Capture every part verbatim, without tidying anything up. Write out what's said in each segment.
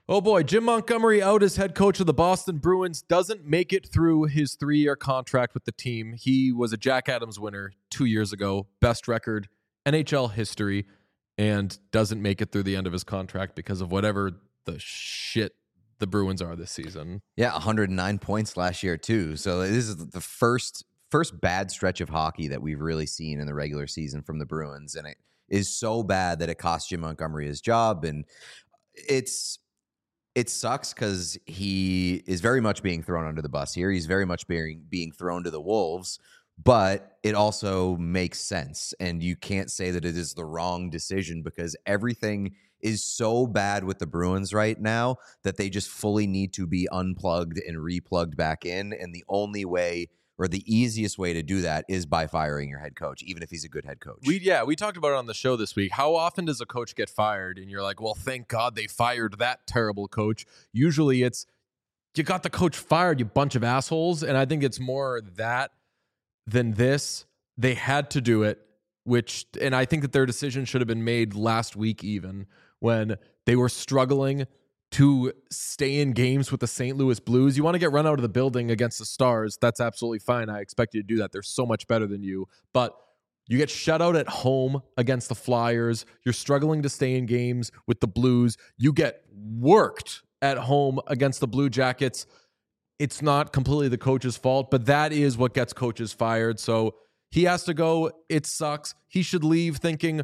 Oh boy, Jim Montgomery out as head coach of the Boston Bruins, doesn't make it through his three-year contract with the team. He was a Jack Adams winner two years ago, best record N H L history, and doesn't make it through the end of his contract because of whatever the shit the Bruins are this season. Yeah, one hundred nine points last year too. So this is the first first bad stretch of hockey that we've really seen in the regular season from the Bruins, and it is so bad that it cost Jim Montgomery his job, and it's It sucks because he is very much being thrown under the bus here. He's very much being being thrown to the wolves, but it also makes sense. And you can't say that it is the wrong decision because everything is so bad with the Bruins right now that they just fully need to be unplugged and replugged back in. And the only way or the easiest way to do that is by firing your head coach, even if he's a good head coach. We yeah, we talked about it on the show this week. How often does a coach get fired and you're like, well, thank God they fired that terrible coach? Usually it's, you got the coach fired, you bunch of assholes. And I think it's more that than this. They had to do it, which, and I think that their decision should have been made last week even, when they were struggling to stay in games with the Saint Louis Blues. You want to get run out of the building against the Stars, that's absolutely fine. I expect you to do that. They're so much better than you. But you get shut out at home against the Flyers. You're struggling to stay in games with the Blues. You get worked at home against the Blue Jackets. It's not completely the coach's fault, but that is what gets coaches fired. So he has to go. It sucks. He should leave thinking,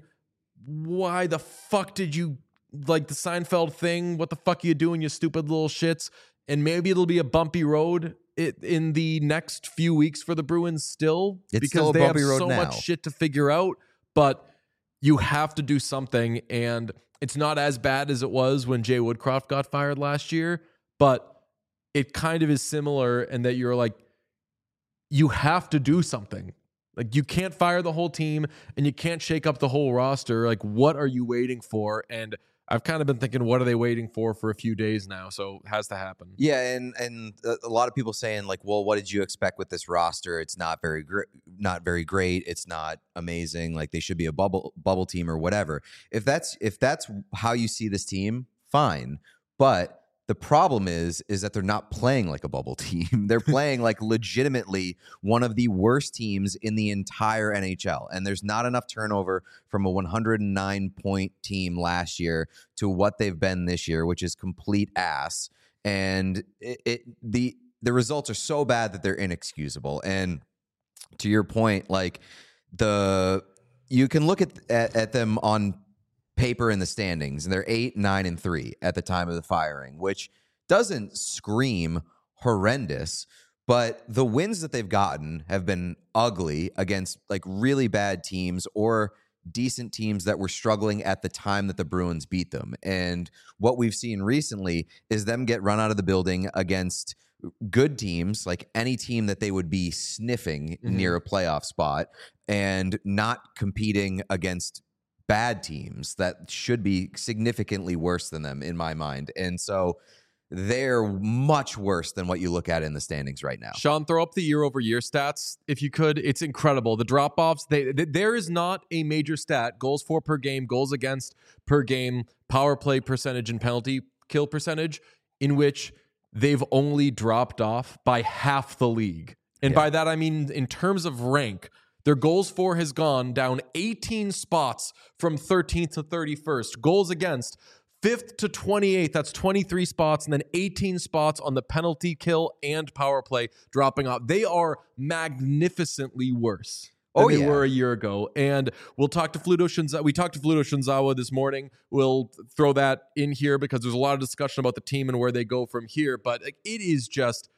why the fuck did you, like the Seinfeld thing, what the fuck are you doing, you stupid little shits? And maybe it'll be a bumpy road it, in the next few weeks for the Bruins still. It's because still a they bumpy have road so now. much shit to figure out. But you have to do something, and it's not as bad as it was when Jay Woodcroft got fired last year, but it kind of is similar in that you're like, you have to do something. Like, you can't fire the whole team and you can't shake up the whole roster. Like, what are you waiting for? And I've kind of been thinking, what are they waiting for for a few days now? So it has to happen. Yeah, and and a lot of people saying like, well, what did you expect with this roster? It's not very great, not very great. It's not amazing. Like, they should be a bubble bubble team or whatever. If that's if that's how you see this team, fine. But the problem is, is that they're not playing like a bubble team. They're playing like legitimately one of the worst teams in the entire N H L. And there's not enough turnover from a one hundred nine point team last year to what they've been this year, which is complete ass. And it, it the the results are so bad that they're inexcusable. And to your point, like the you can look at at, at them on paper in the standings, and they're eight, nine, and three at the time of the firing, which doesn't scream horrendous, but the wins that they've gotten have been ugly against like really bad teams or decent teams that were struggling at the time that the Bruins beat them. And what we've seen recently is them get run out of the building against good teams, like any team that they would be sniffing mm-hmm. near a playoff spot, and not competing against bad teams that should be significantly worse than them in my mind. And so they're much worse than what you look at in the standings right now. Sean, throw up the year over year stats if you could. It's incredible. The drop offs, they, they, there is not a major stat, goals for per game, goals against per game, power play percentage, and penalty kill percentage, in which they've only dropped off by half the league. And yeah. by that, I mean, in terms of rank, their goals for has gone down eighteen spots from thirteenth to thirty-first. Goals against, fifth to twenty-eighth. That's twenty-three spots. And then eighteen spots on the penalty kill and power play dropping off. They are magnificently worse than oh, they yeah. were a year ago. And we'll talk to Fluto Shinzawa. We talked to Fluto Shinzawa this morning. We'll throw that in here because there's a lot of discussion about the team and where they go from here. But it is just,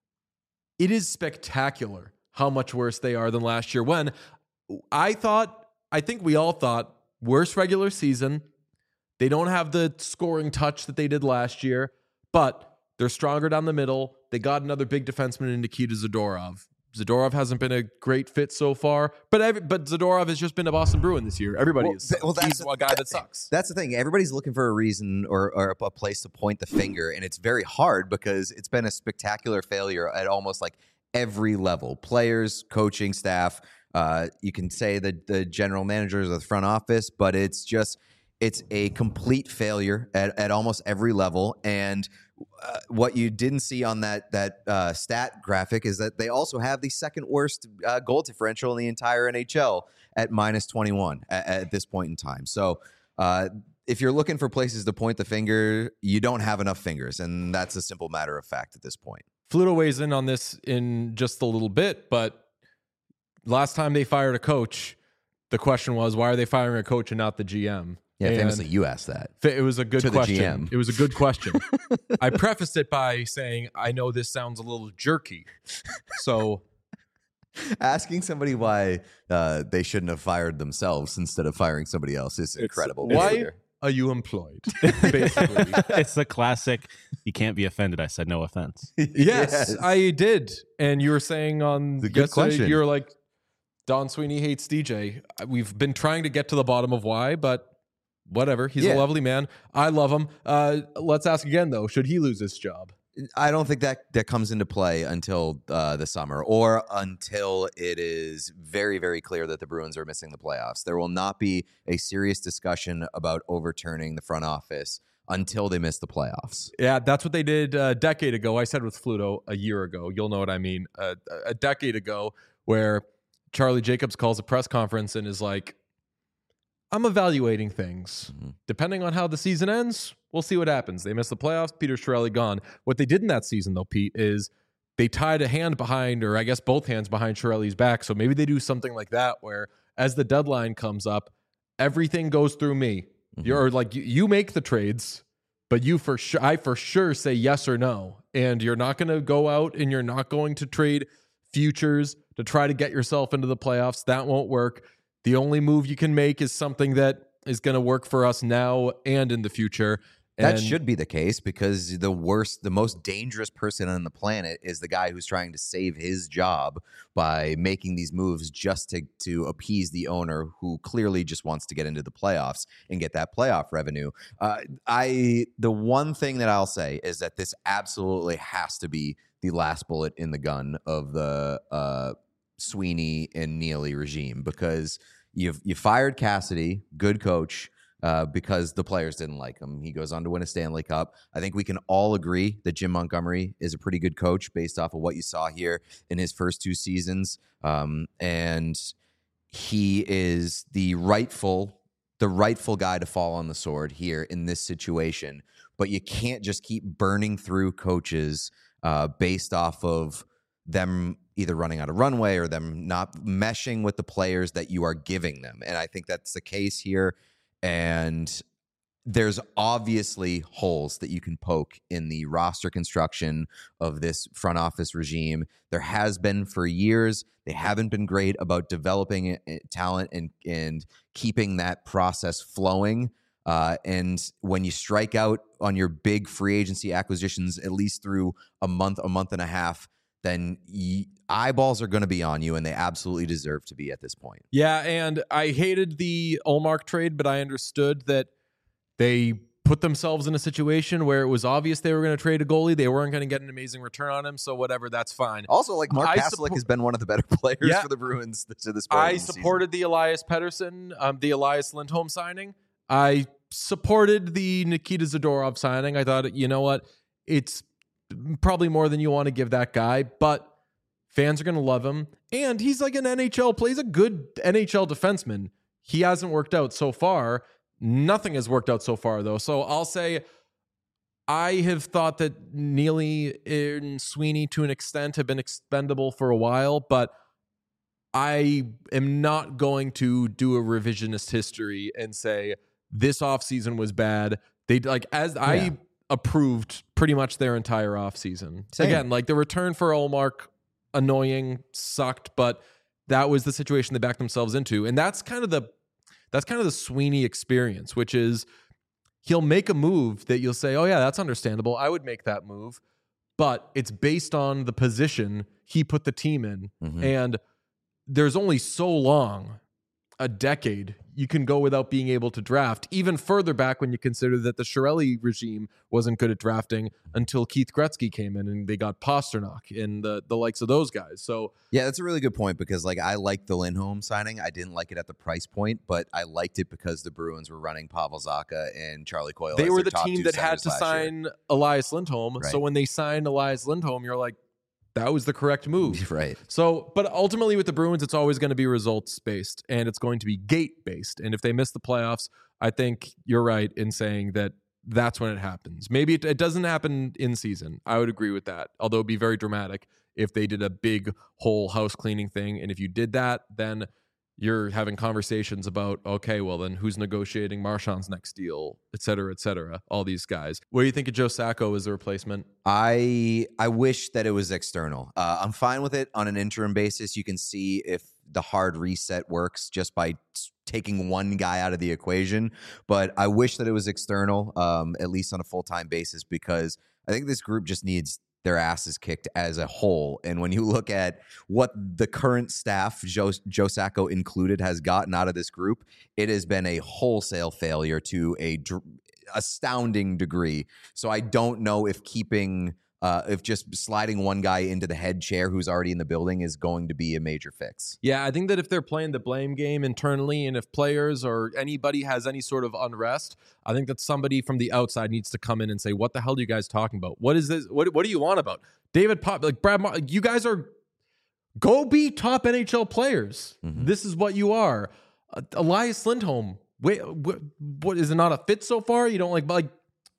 it is spectacular how much worse they are than last year, when I thought, I think we all thought, worse regular season. They don't have the scoring touch that they did last year, but they're stronger down the middle. They got another big defenseman in Nikita Zadorov. Zadorov hasn't been a great fit so far, but every, but Zadorov has just been a Boston Bruin this year. Everybody well, is. Well, that's He's a guy that sucks. That's the thing. Everybody's looking for a reason or, or a place to point the finger, and it's very hard because it's been a spectacular failure at almost like every level. Players, coaching staff, uh, you can say the the general managers of the front office, but it's just It's a complete failure at, at almost every level. And uh, what you didn't see on that that uh, stat graphic is that they also have the second worst uh, goal differential in the entire N H L at minus twenty-one at, at this point in time. So uh, if you're looking for places to point the finger, you don't have enough fingers. And that's a simple matter of fact at this point. Fluto weighs in on this in just a little bit, but last time they fired a coach, the question was, why are they firing a coach and not the G M? Yeah, and famously, you asked that. It was a good to question. The G M. It was a good question. I prefaced it by saying, I know this sounds a little jerky. So asking somebody why uh, they shouldn't have fired themselves instead of firing somebody else is incredible. Why behavior. Are you employed? Basically. It's the classic, you can't be offended. I said no offense. Yes, Yes. I did. And you were saying on It's a good yesterday, question. you were like, Don Sweeney hates D J. We've been trying to get to the bottom of why, but whatever. He's Yeah. a lovely man. I love him. Uh, let's ask again, though. Should he lose his job? I don't think that that comes into play until uh, the summer or until it is very, very clear that the Bruins are missing the playoffs. There will not be a serious discussion about overturning the front office until they miss the playoffs. Yeah, that's what they did a decade ago. I said with Fluto a year ago. You'll know what I mean. Uh, a decade ago, where Charlie Jacobs calls a press conference and is like, I'm evaluating things. Mhm. Depending on how the season ends, we'll see what happens. They missed the playoffs. Peter Chiarelli gone. What they did in that season, though, Pete, is they tied a hand behind, or I guess both hands behind Chiarelli's back. So maybe they do something like that where as the deadline comes up, everything goes through me. Mhm. You're like, you, you make the trades, but you for sure, I for sure say yes or no. And you're not going to go out and you're not going to trade futures to try to get yourself into the playoffs. That won't work. The only move you can make is something that is going to work for us now and in the future. That And should be the case because the worst, the most dangerous person on the planet is the guy who's trying to save his job by making these moves just to to appease the owner who clearly just wants to get into the playoffs and get that playoff revenue. Uh, I the one thing that I'll say is that this absolutely has to be the last bullet in the gun of the uh, Sweeney and Neely regime because you've you fired Cassidy, good coach. Uh, because the players didn't like him. He goes on to win a Stanley Cup. I think we can all agree that Jim Montgomery is a pretty good coach based off of what you saw here in his first two seasons. Um, and he is the rightful, the rightful guy to fall on the sword here in this situation. But you can't just keep burning through coaches uh, based off of them either running out of runway or them not meshing with the players that you are giving them. And I think that's the case here. And there's obviously holes that you can poke in the roster construction of this front office regime. There has been for years. They haven't been great about developing talent and, and keeping that process flowing. Uh, and when you strike out on your big free agency acquisitions, at least through a month, a month and a half, then y- eyeballs are going to be on you, and they absolutely deserve to be at this point. yeah, and I hated the Ullmark trade, but I understood that they put themselves in a situation where it was obvious they were going to trade a goalie. They weren't going to get an amazing return on him, so whatever, that's fine. Also, like Mark I Kastelik suppo- has been one of the better players Yeah. for the Bruins to this point. I in the supported the Elias Pettersson, um, the Elias Lindholm signing. I supported the Nikita Zadorov signing. I thought, you know what, it's probably more than you want to give that guy, but fans are going to love him. And he's like an N H L, plays a good N H L defenseman. He hasn't worked out so far. Nothing has worked out so far, though. So I'll say I have thought that Neely and Sweeney, to an extent, have been expendable for a while, but I am not going to do a revisionist history and say this offseason was bad. They like as Yeah. I approved pretty much their entire offseason. Same. Again, like the return for Ullmark, annoying, sucked, but that was the situation they backed themselves into. And that's kind of the that's kind of the Sweeney experience, which is he'll make a move that you'll say, oh yeah, that's understandable. I would make that move. But it's based on the position he put the team in. Mhm. And there's only so long a decade, you can go without being able to draft. Even further back when you consider that the Chiarelli regime wasn't good at drafting until Keith Gretzky came in and they got Pasternak and the, the likes of those guys. So yeah, that's a really good point because like I liked the Lindholm signing. I didn't like it at the price point, but I liked it because the Bruins were running Pavel Zacha and Charlie Coyle. They as were their the top team two that had centers to last year. sign Elias Lindholm. Right. So when they signed Elias Lindholm, you're like, that was the correct move. Right. So, but ultimately with the Bruins, it's always going to be results based and it's going to be gate based. And if they miss the playoffs, I think you're right in saying that that's when it happens. Maybe it, it doesn't happen in season. I would agree with that. Although it'd be very dramatic if they did a big whole house cleaning thing. And if you did that, then you're having conversations about, okay, well then who's negotiating Marchand's next deal, et cetera, et cetera, all these guys. What do you think of Joe Sacco as a replacement? I I wish that it was external. Uh, I'm fine with it on an interim basis. You can see if the hard reset works just by t- taking one guy out of the equation. But I wish that it was external, um, at least on a full-time basis, because I think this group just needs their asses kicked as a whole. And when you look at what the current staff, Joe, Joe Sacco included, has gotten out of this group, it has been a wholesale failure to a dr- astounding degree. So I don't know if keeping, uh, if just sliding one guy into the head chair who's already in the building is going to be a major fix. Yeah, I think that if they're playing the blame game internally and if players or anybody has any sort of unrest, I think that somebody from the outside needs to come in and say, what the hell are you guys talking about? What is this? What, what do you want about? David Pop, like Brad, Mar- you guys are, go be top N H L players. Mm-hmm. This is what you are. Uh, Elias Lindholm, wait, what, what, is it not a fit so far? You don't like, like,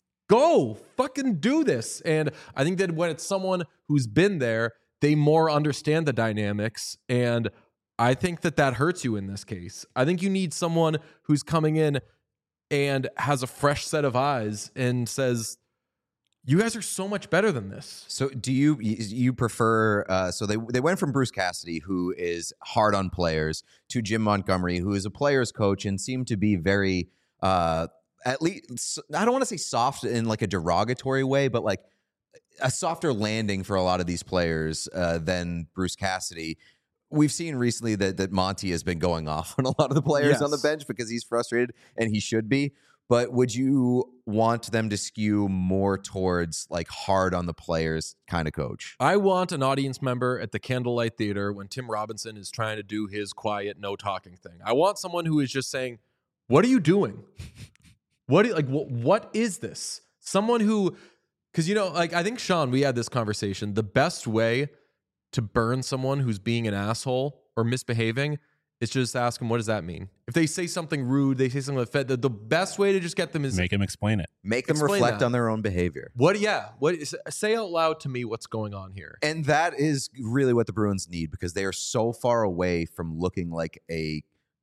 go fucking do this. And I think that when it's someone who's been there, they more understand the dynamics. And I think that that hurts you in this case. I think you need someone who's coming in and has a fresh set of eyes and says, you guys are so much better than this. So do you you prefer uh, so they they went from Bruce Cassidy, who is hard on players, to Jim Montgomery, who is a players coach and seemed to be very uh, at least, I don't want to say soft in like a derogatory way, but like a softer landing for a lot of these players uh, than Bruce Cassidy. We've seen recently that that Monty has been going off on a lot of the players Yes. on the bench because he's frustrated, and he should be. But would you want them to skew more towards like hard on the players kind of coach? I want an audience member at the Candlelight Theater when Tim Robinson is trying to do his quiet, no talking thing. I want someone who is just saying, what are you doing? What do you, like what, what is this? Someone who, because you know, like I think Sean, we had this conversation. The best way to burn someone who's being an asshole or misbehaving is just ask them, what does that mean? If they say something rude, they say something like that, the, the best way to just get them is Make him explain it. Make them Explain reflect that. on their own behavior. what? Yeah, what is, say out loud to me what's going on here. And that is really what the Bruins need, because they are so far away from looking like a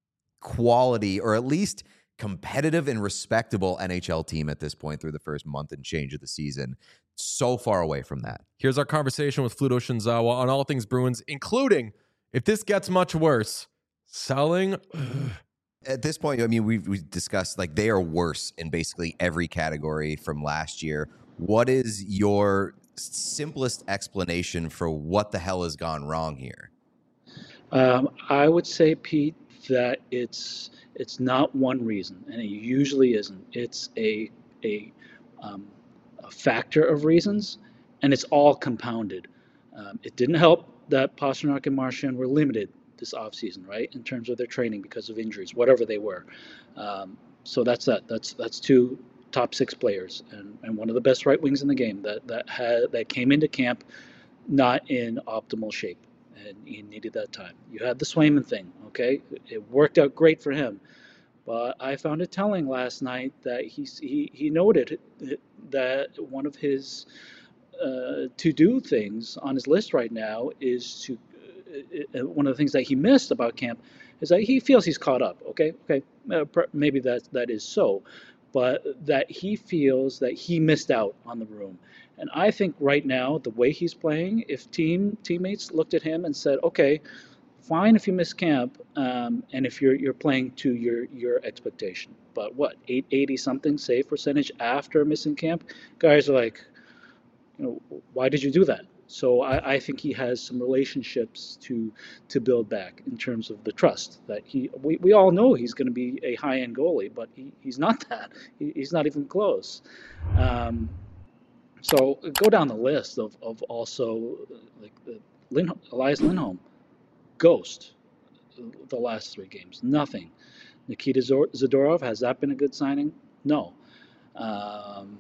quality or at least competitive and respectable N H L team at this point through the first month and change of the season. So far away from that. Here's our conversation with Fluto Shinzawa on all things Bruins, including if this gets much worse, selling. At this point, I mean, we've, we've discussed like they are worse in basically every category from last year. What is your simplest explanation for what the hell has gone wrong here? Um, I would say, Pete, that it's it's not one reason, and it usually isn't. It's a a, um, a factor of reasons, and it's all compounded. Um, it didn't help that Pasternak and Marchand were limited this offseason, right, in terms of their training because of injuries, whatever they were. Um, so that's that. That's that's two top six players, and, and one of the best right wings in the game that that had that came into camp not in optimal shape. And he needed that time. You had the Swayman thing, okay? It worked out great for him. But I found it telling last night that he he, he noted that one of his uh, to-do things on his list right now is to, uh, one of the things that he missed about camp is that he feels he's caught up, okay? Okay, uh, maybe that that is so. But that he feels that he missed out on the room. And I think right now, the way he's playing, if team teammates looked at him and said, okay, fine if you miss camp, um, and if you're you're playing to your, your expectation. But what, eight eighty something save percentage after missing camp? Guys are like, you know, why did you do that? So I, I think he has some relationships to to build back in terms of the trust that he. We, we all know he's going to be a high end goalie, but he, he's not that. He, he's not even close. Um, so go down the list of, of also like the Lin, Elias Lindholm, ghost. The last three games, nothing. Nikita Zadorov, has that been a good signing? No. Um,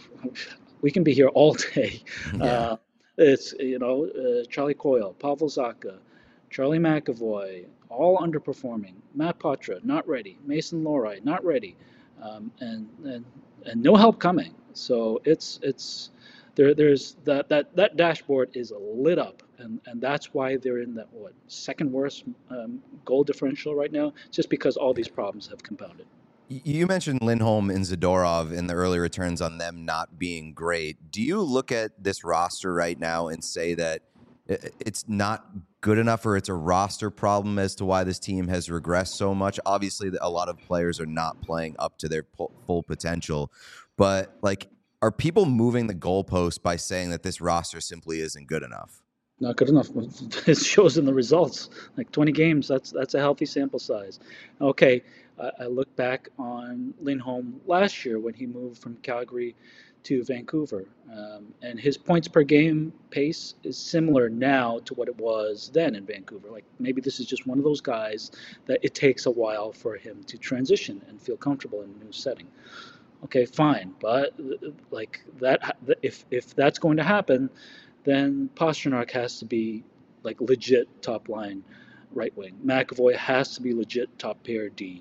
we can be here all day. Yeah. Uh, it's, you know, uh, Charlie Coyle, Pavel Zacha, Charlie McAvoy, all underperforming. Matt Poitras, not ready. Mason Lohrei, not ready. Um, and, and and no help coming. So it's it's there. There's that that that dashboard is lit up, and and that's why they're in that what second worst um, goal differential right now, just because all these problems have compounded. You mentioned Lindholm and Zadorov and the early returns on them not being great. Do you look at this roster right now and say that it's not good enough, or it's a roster problem as to why this team has regressed so much? Obviously, a lot of players are not playing up to their full potential, but like, are people moving the goalpost by saying that this roster simply isn't good enough? Not good enough. It shows in the results. Like twenty games, that's that's a healthy sample size. Okay, I, I look back on Lindholm last year when he moved from Calgary to Vancouver, um, and his points per game pace is similar now to what it was then in Vancouver. Like maybe this is just one of those guys that it takes a while for him to transition and feel comfortable in a new setting. Okay, fine, but like that, if if that's going to happen, then Pastrnak has to be like legit top line right wing. McAvoy has to be legit top pair D.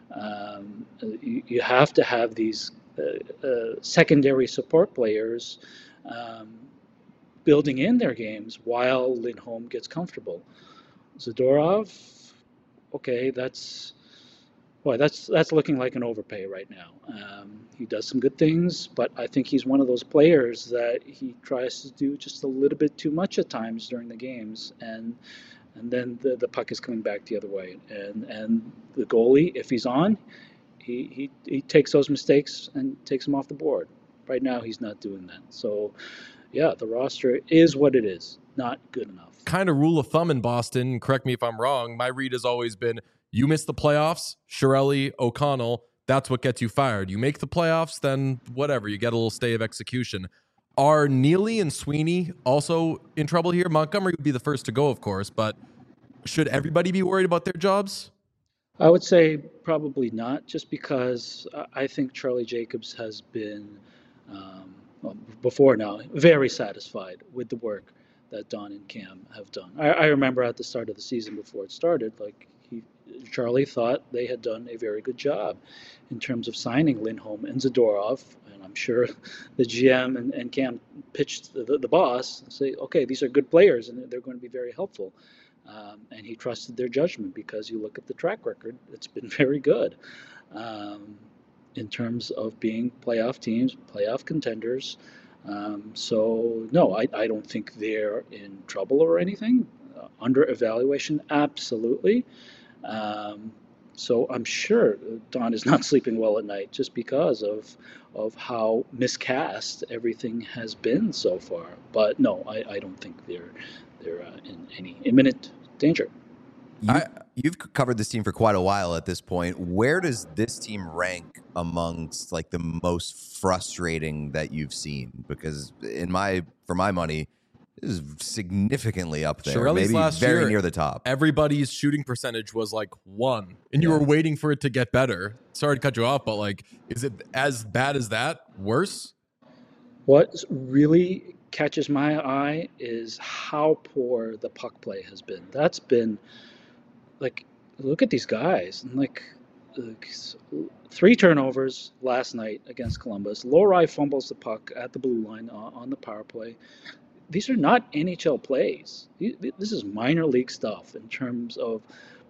Um, you, you have to have these uh, uh, secondary support players um, building in their games while Lindholm gets comfortable. Zadorov, okay, that's boy, that's that's looking like an overpay right now. Um, he does some good things, but I think he's one of those players that he tries to do just a little bit too much at times during the games, and and then the, the puck is coming back the other way. And and the goalie, if he's on, he, he he takes those mistakes and takes them off the board. Right now, he's not doing that. So, yeah, the roster is what it is, not good enough. Kind of rule of thumb in Boston, correct me if I'm wrong, my read has always been, you miss the playoffs, Chiarelli, O'Connell, that's what gets you fired. You make the playoffs, then whatever, you get a little stay of execution. Are Neely and Sweeney also in trouble here? Montgomery would be the first to go, of course, but should everybody be worried about their jobs? I would say probably not, just because I think Charlie Jacobs has been, um, well, before now, very satisfied with the work that Don and Cam have done. I, I remember at the start of the season before it started, like he, Charlie thought they had done a very good job in terms of signing Lindholm and Zadorov, and I'm sure the G M and, and Cam pitched the, the, the boss and say, okay, these are good players and they're going to be very helpful. Um, and he trusted their judgment because you look at the track record, it's been very good um, in terms of being playoff teams, playoff contenders. Um, so, no, I, I don't think they're in trouble or anything. Uh, under evaluation, absolutely. Um, so I'm sure Don is not sleeping well at night just because of of how miscast everything has been so far. But no, I, I don't think they're they're uh, in any imminent danger. You, I, you've covered this team for quite a while at this point. Where does this team rank amongst like the most frustrating that you've seen? Because in my for my money, this is significantly up there. Chiarelli's maybe last very year, near the top. Everybody's shooting percentage was like one, and you yeah. were waiting for it to get better. Sorry to cut you off, but like, is it as bad as that? Worse? What really catches my eye is how poor the puck play has been. That's been like, look at these guys, and like, like three turnovers last night against Columbus. Lohrei fumbles the puck at the blue line on, on the power play. These are not N H L plays. This is minor league stuff in terms of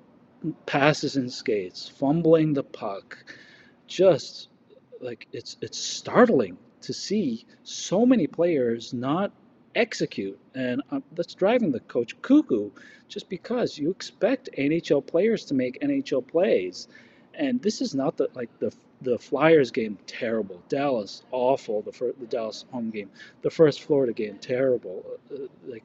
passes and skates, fumbling the puck. Just like it's it's startling to see so many players not execute, and uh, that's driving the coach cuckoo. Just because you expect N H L players to make N H L plays, and this is not the like the the Flyers game, terrible. Dallas, awful. The first, the Dallas home game. The first Florida game, terrible. Uh, like,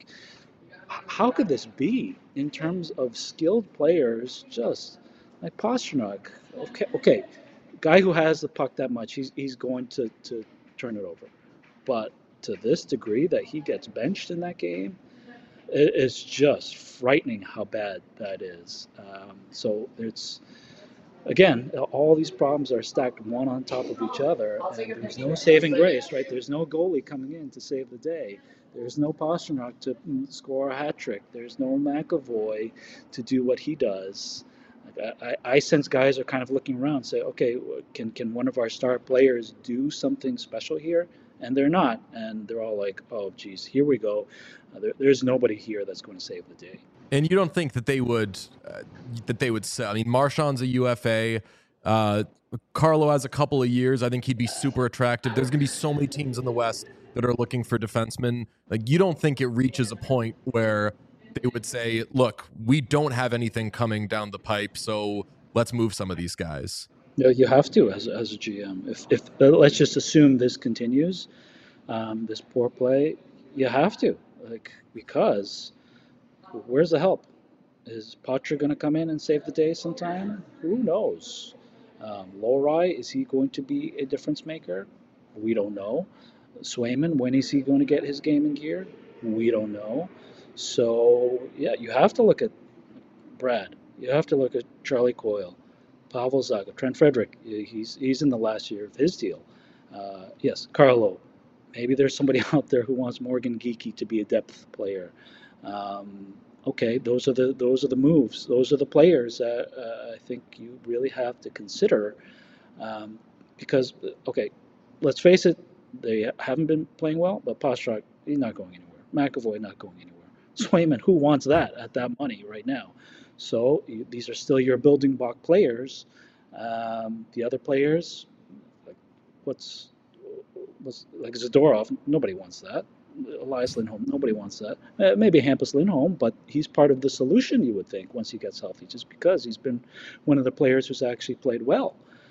how could this be in terms of skilled players? Just like Pastrnak. Okay, okay, guy who has the puck that much, he's he's going to to turn it over. But to this degree that he gets benched in that game, it, it's just frightening how bad that is. Um, so it's again, all these problems are stacked one on top of each other, and there's no saving grace, right? There's no goalie coming in to save the day. There's no Pastrnak to score a hat trick. There's no McAvoy to do what he does. Like, I, I sense guys are kind of looking around, say, okay, can can one of our star players do something special here? And they're not, and they're all like, oh, geez, here we go. Uh, there, there's nobody here that's going to save the day. And you don't think that they would uh, that they would sell? I mean, Marchand's a U F A. Uh, Carlo has a couple of years. I think he'd be super attractive. There's going to be so many teams in the West that are looking for defensemen. Like, you don't think it reaches a point where they would say, look, we don't have anything coming down the pipe, so let's move some of these guys? No, you have to as, as a G M. If, if uh, let's just assume this continues, um, this poor play, you have to, like, because where's the help? Is Poitras going to come in and save the day sometime? Who knows? Um, Lohrei, is he going to be a difference maker? We don't know. Swayman, when is he going to get his game in gear? We don't know. So, yeah, you have to look at Brad. You have to look at Charlie Coyle, Pavel Zacha, Trent Frederick. He's he's in the last year of his deal. Uh, yes, Carlo. Maybe there's somebody out there who wants Morgan Geekie to be a depth player. Um, okay, those are the those are the moves. Those are the players that uh, I think you really have to consider. Um, because, okay, let's face it, they haven't been playing well, but Pastrnak, he's not going anywhere. McAvoy, not going anywhere. Swayman, who wants that at that money right now? So you, these are still your building block players. Um, the other players, like what's, what's like Zadorov, nobody wants that. Elias Lindholm, nobody wants that. Uh, maybe Hampus Lindholm, but he's part of the solution, you would think, once he gets healthy, just because he's been one of the players who's actually played well.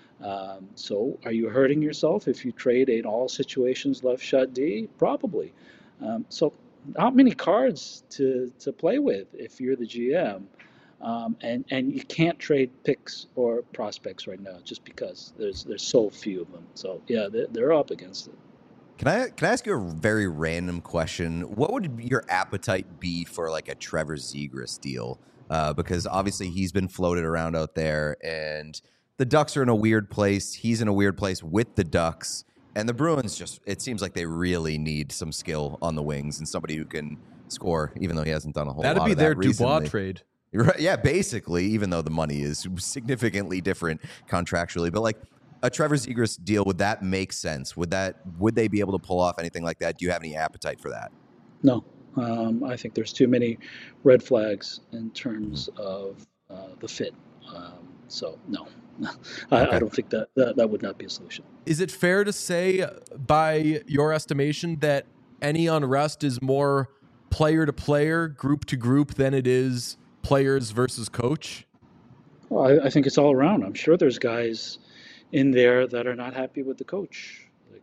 Um, so are you hurting yourself if you trade an all situations left shot D? Probably. Um, so not many cards to, to play with if you're the G M. Um, and, and you can't trade picks or prospects right now just because there's there's so few of them. So, yeah, they're, they're up against it. Can I can I ask you a very random question? What would your appetite be for like a Trevor Zegras deal? Uh, because obviously he's been floated around out there, and the Ducks are in a weird place. He's in a weird place with the Ducks, and the Bruins just, it seems like they really need some skill on the wings and somebody who can score, even though he hasn't done a whole That'd lot be of their that Dubois recently. trade. Right, yeah, basically, even though the money is significantly different contractually. But like a Trevor Zegras deal, would that make sense? Would that would they be able to pull off anything like that? Do you have any appetite for that? No. Um, I think there's too many red flags in terms of uh, the fit. Um, so, no. I, Okay. I don't think that, that that would not be a solution. Is it fair to say, by your estimation, that any unrest is more player to player, group to group, than it is players versus coach? Well, I, I think it's all around. I'm sure there's guys in there that are not happy with the coach, like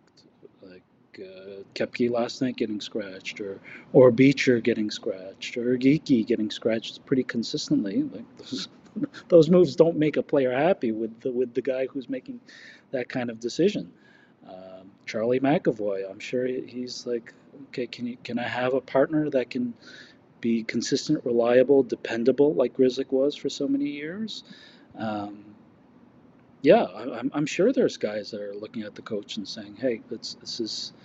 like uh, Kepke last night getting scratched, or or Beecher getting scratched, or Geekie getting scratched pretty consistently. Like those, those moves don't make a player happy with the with the guy who's making that kind of decision. Um, Charlie McAvoy, I'm sure he's like, okay, can you can I have a partner that can be consistent, reliable, dependable, like Grzelcyk was for so many years? Um, yeah, I, I'm, I'm sure there's guys that are looking at the coach and saying, "Hey, this this is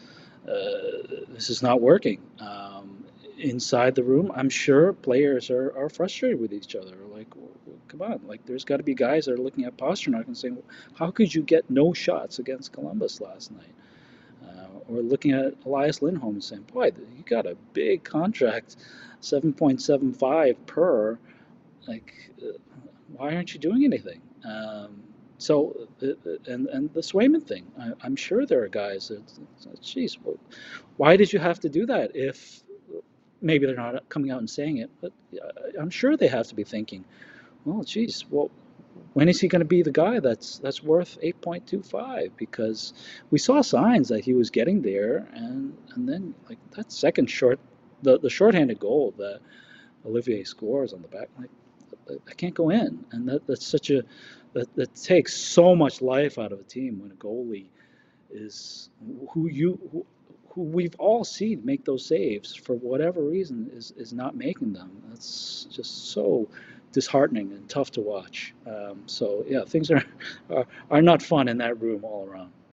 uh, this is not working." Um, inside the room, I'm sure players are, are frustrated with each other. Like, w- w- come on, like there's got to be guys that are looking at Pastrnak and saying, "How could you get no shots against Columbus last night?" Uh, or looking at Elias Lindholm and saying, "Boy, you got a big contract, seven point seven five per. Like, uh, why aren't you doing anything?" Um, so, uh, uh, and and the Swayman thing, I, I'm sure there are guys that, geez, well, why did you have to do that? If maybe they're not coming out and saying it, but uh, I'm sure they have to be thinking, well, geez, well, when is he going to be the guy that's that's worth eight point two five? Because we saw signs that he was getting there, and and then like that second short, the the shorthanded goal that Olivier scores on the back, like that can't go in, and that that's such a that that takes so much life out of a team when a goalie is who you who, who we've all seen make those saves for whatever reason is is not making them. That's just so disheartening and tough to watch. Um, so yeah, things are, are are not fun in that room all around.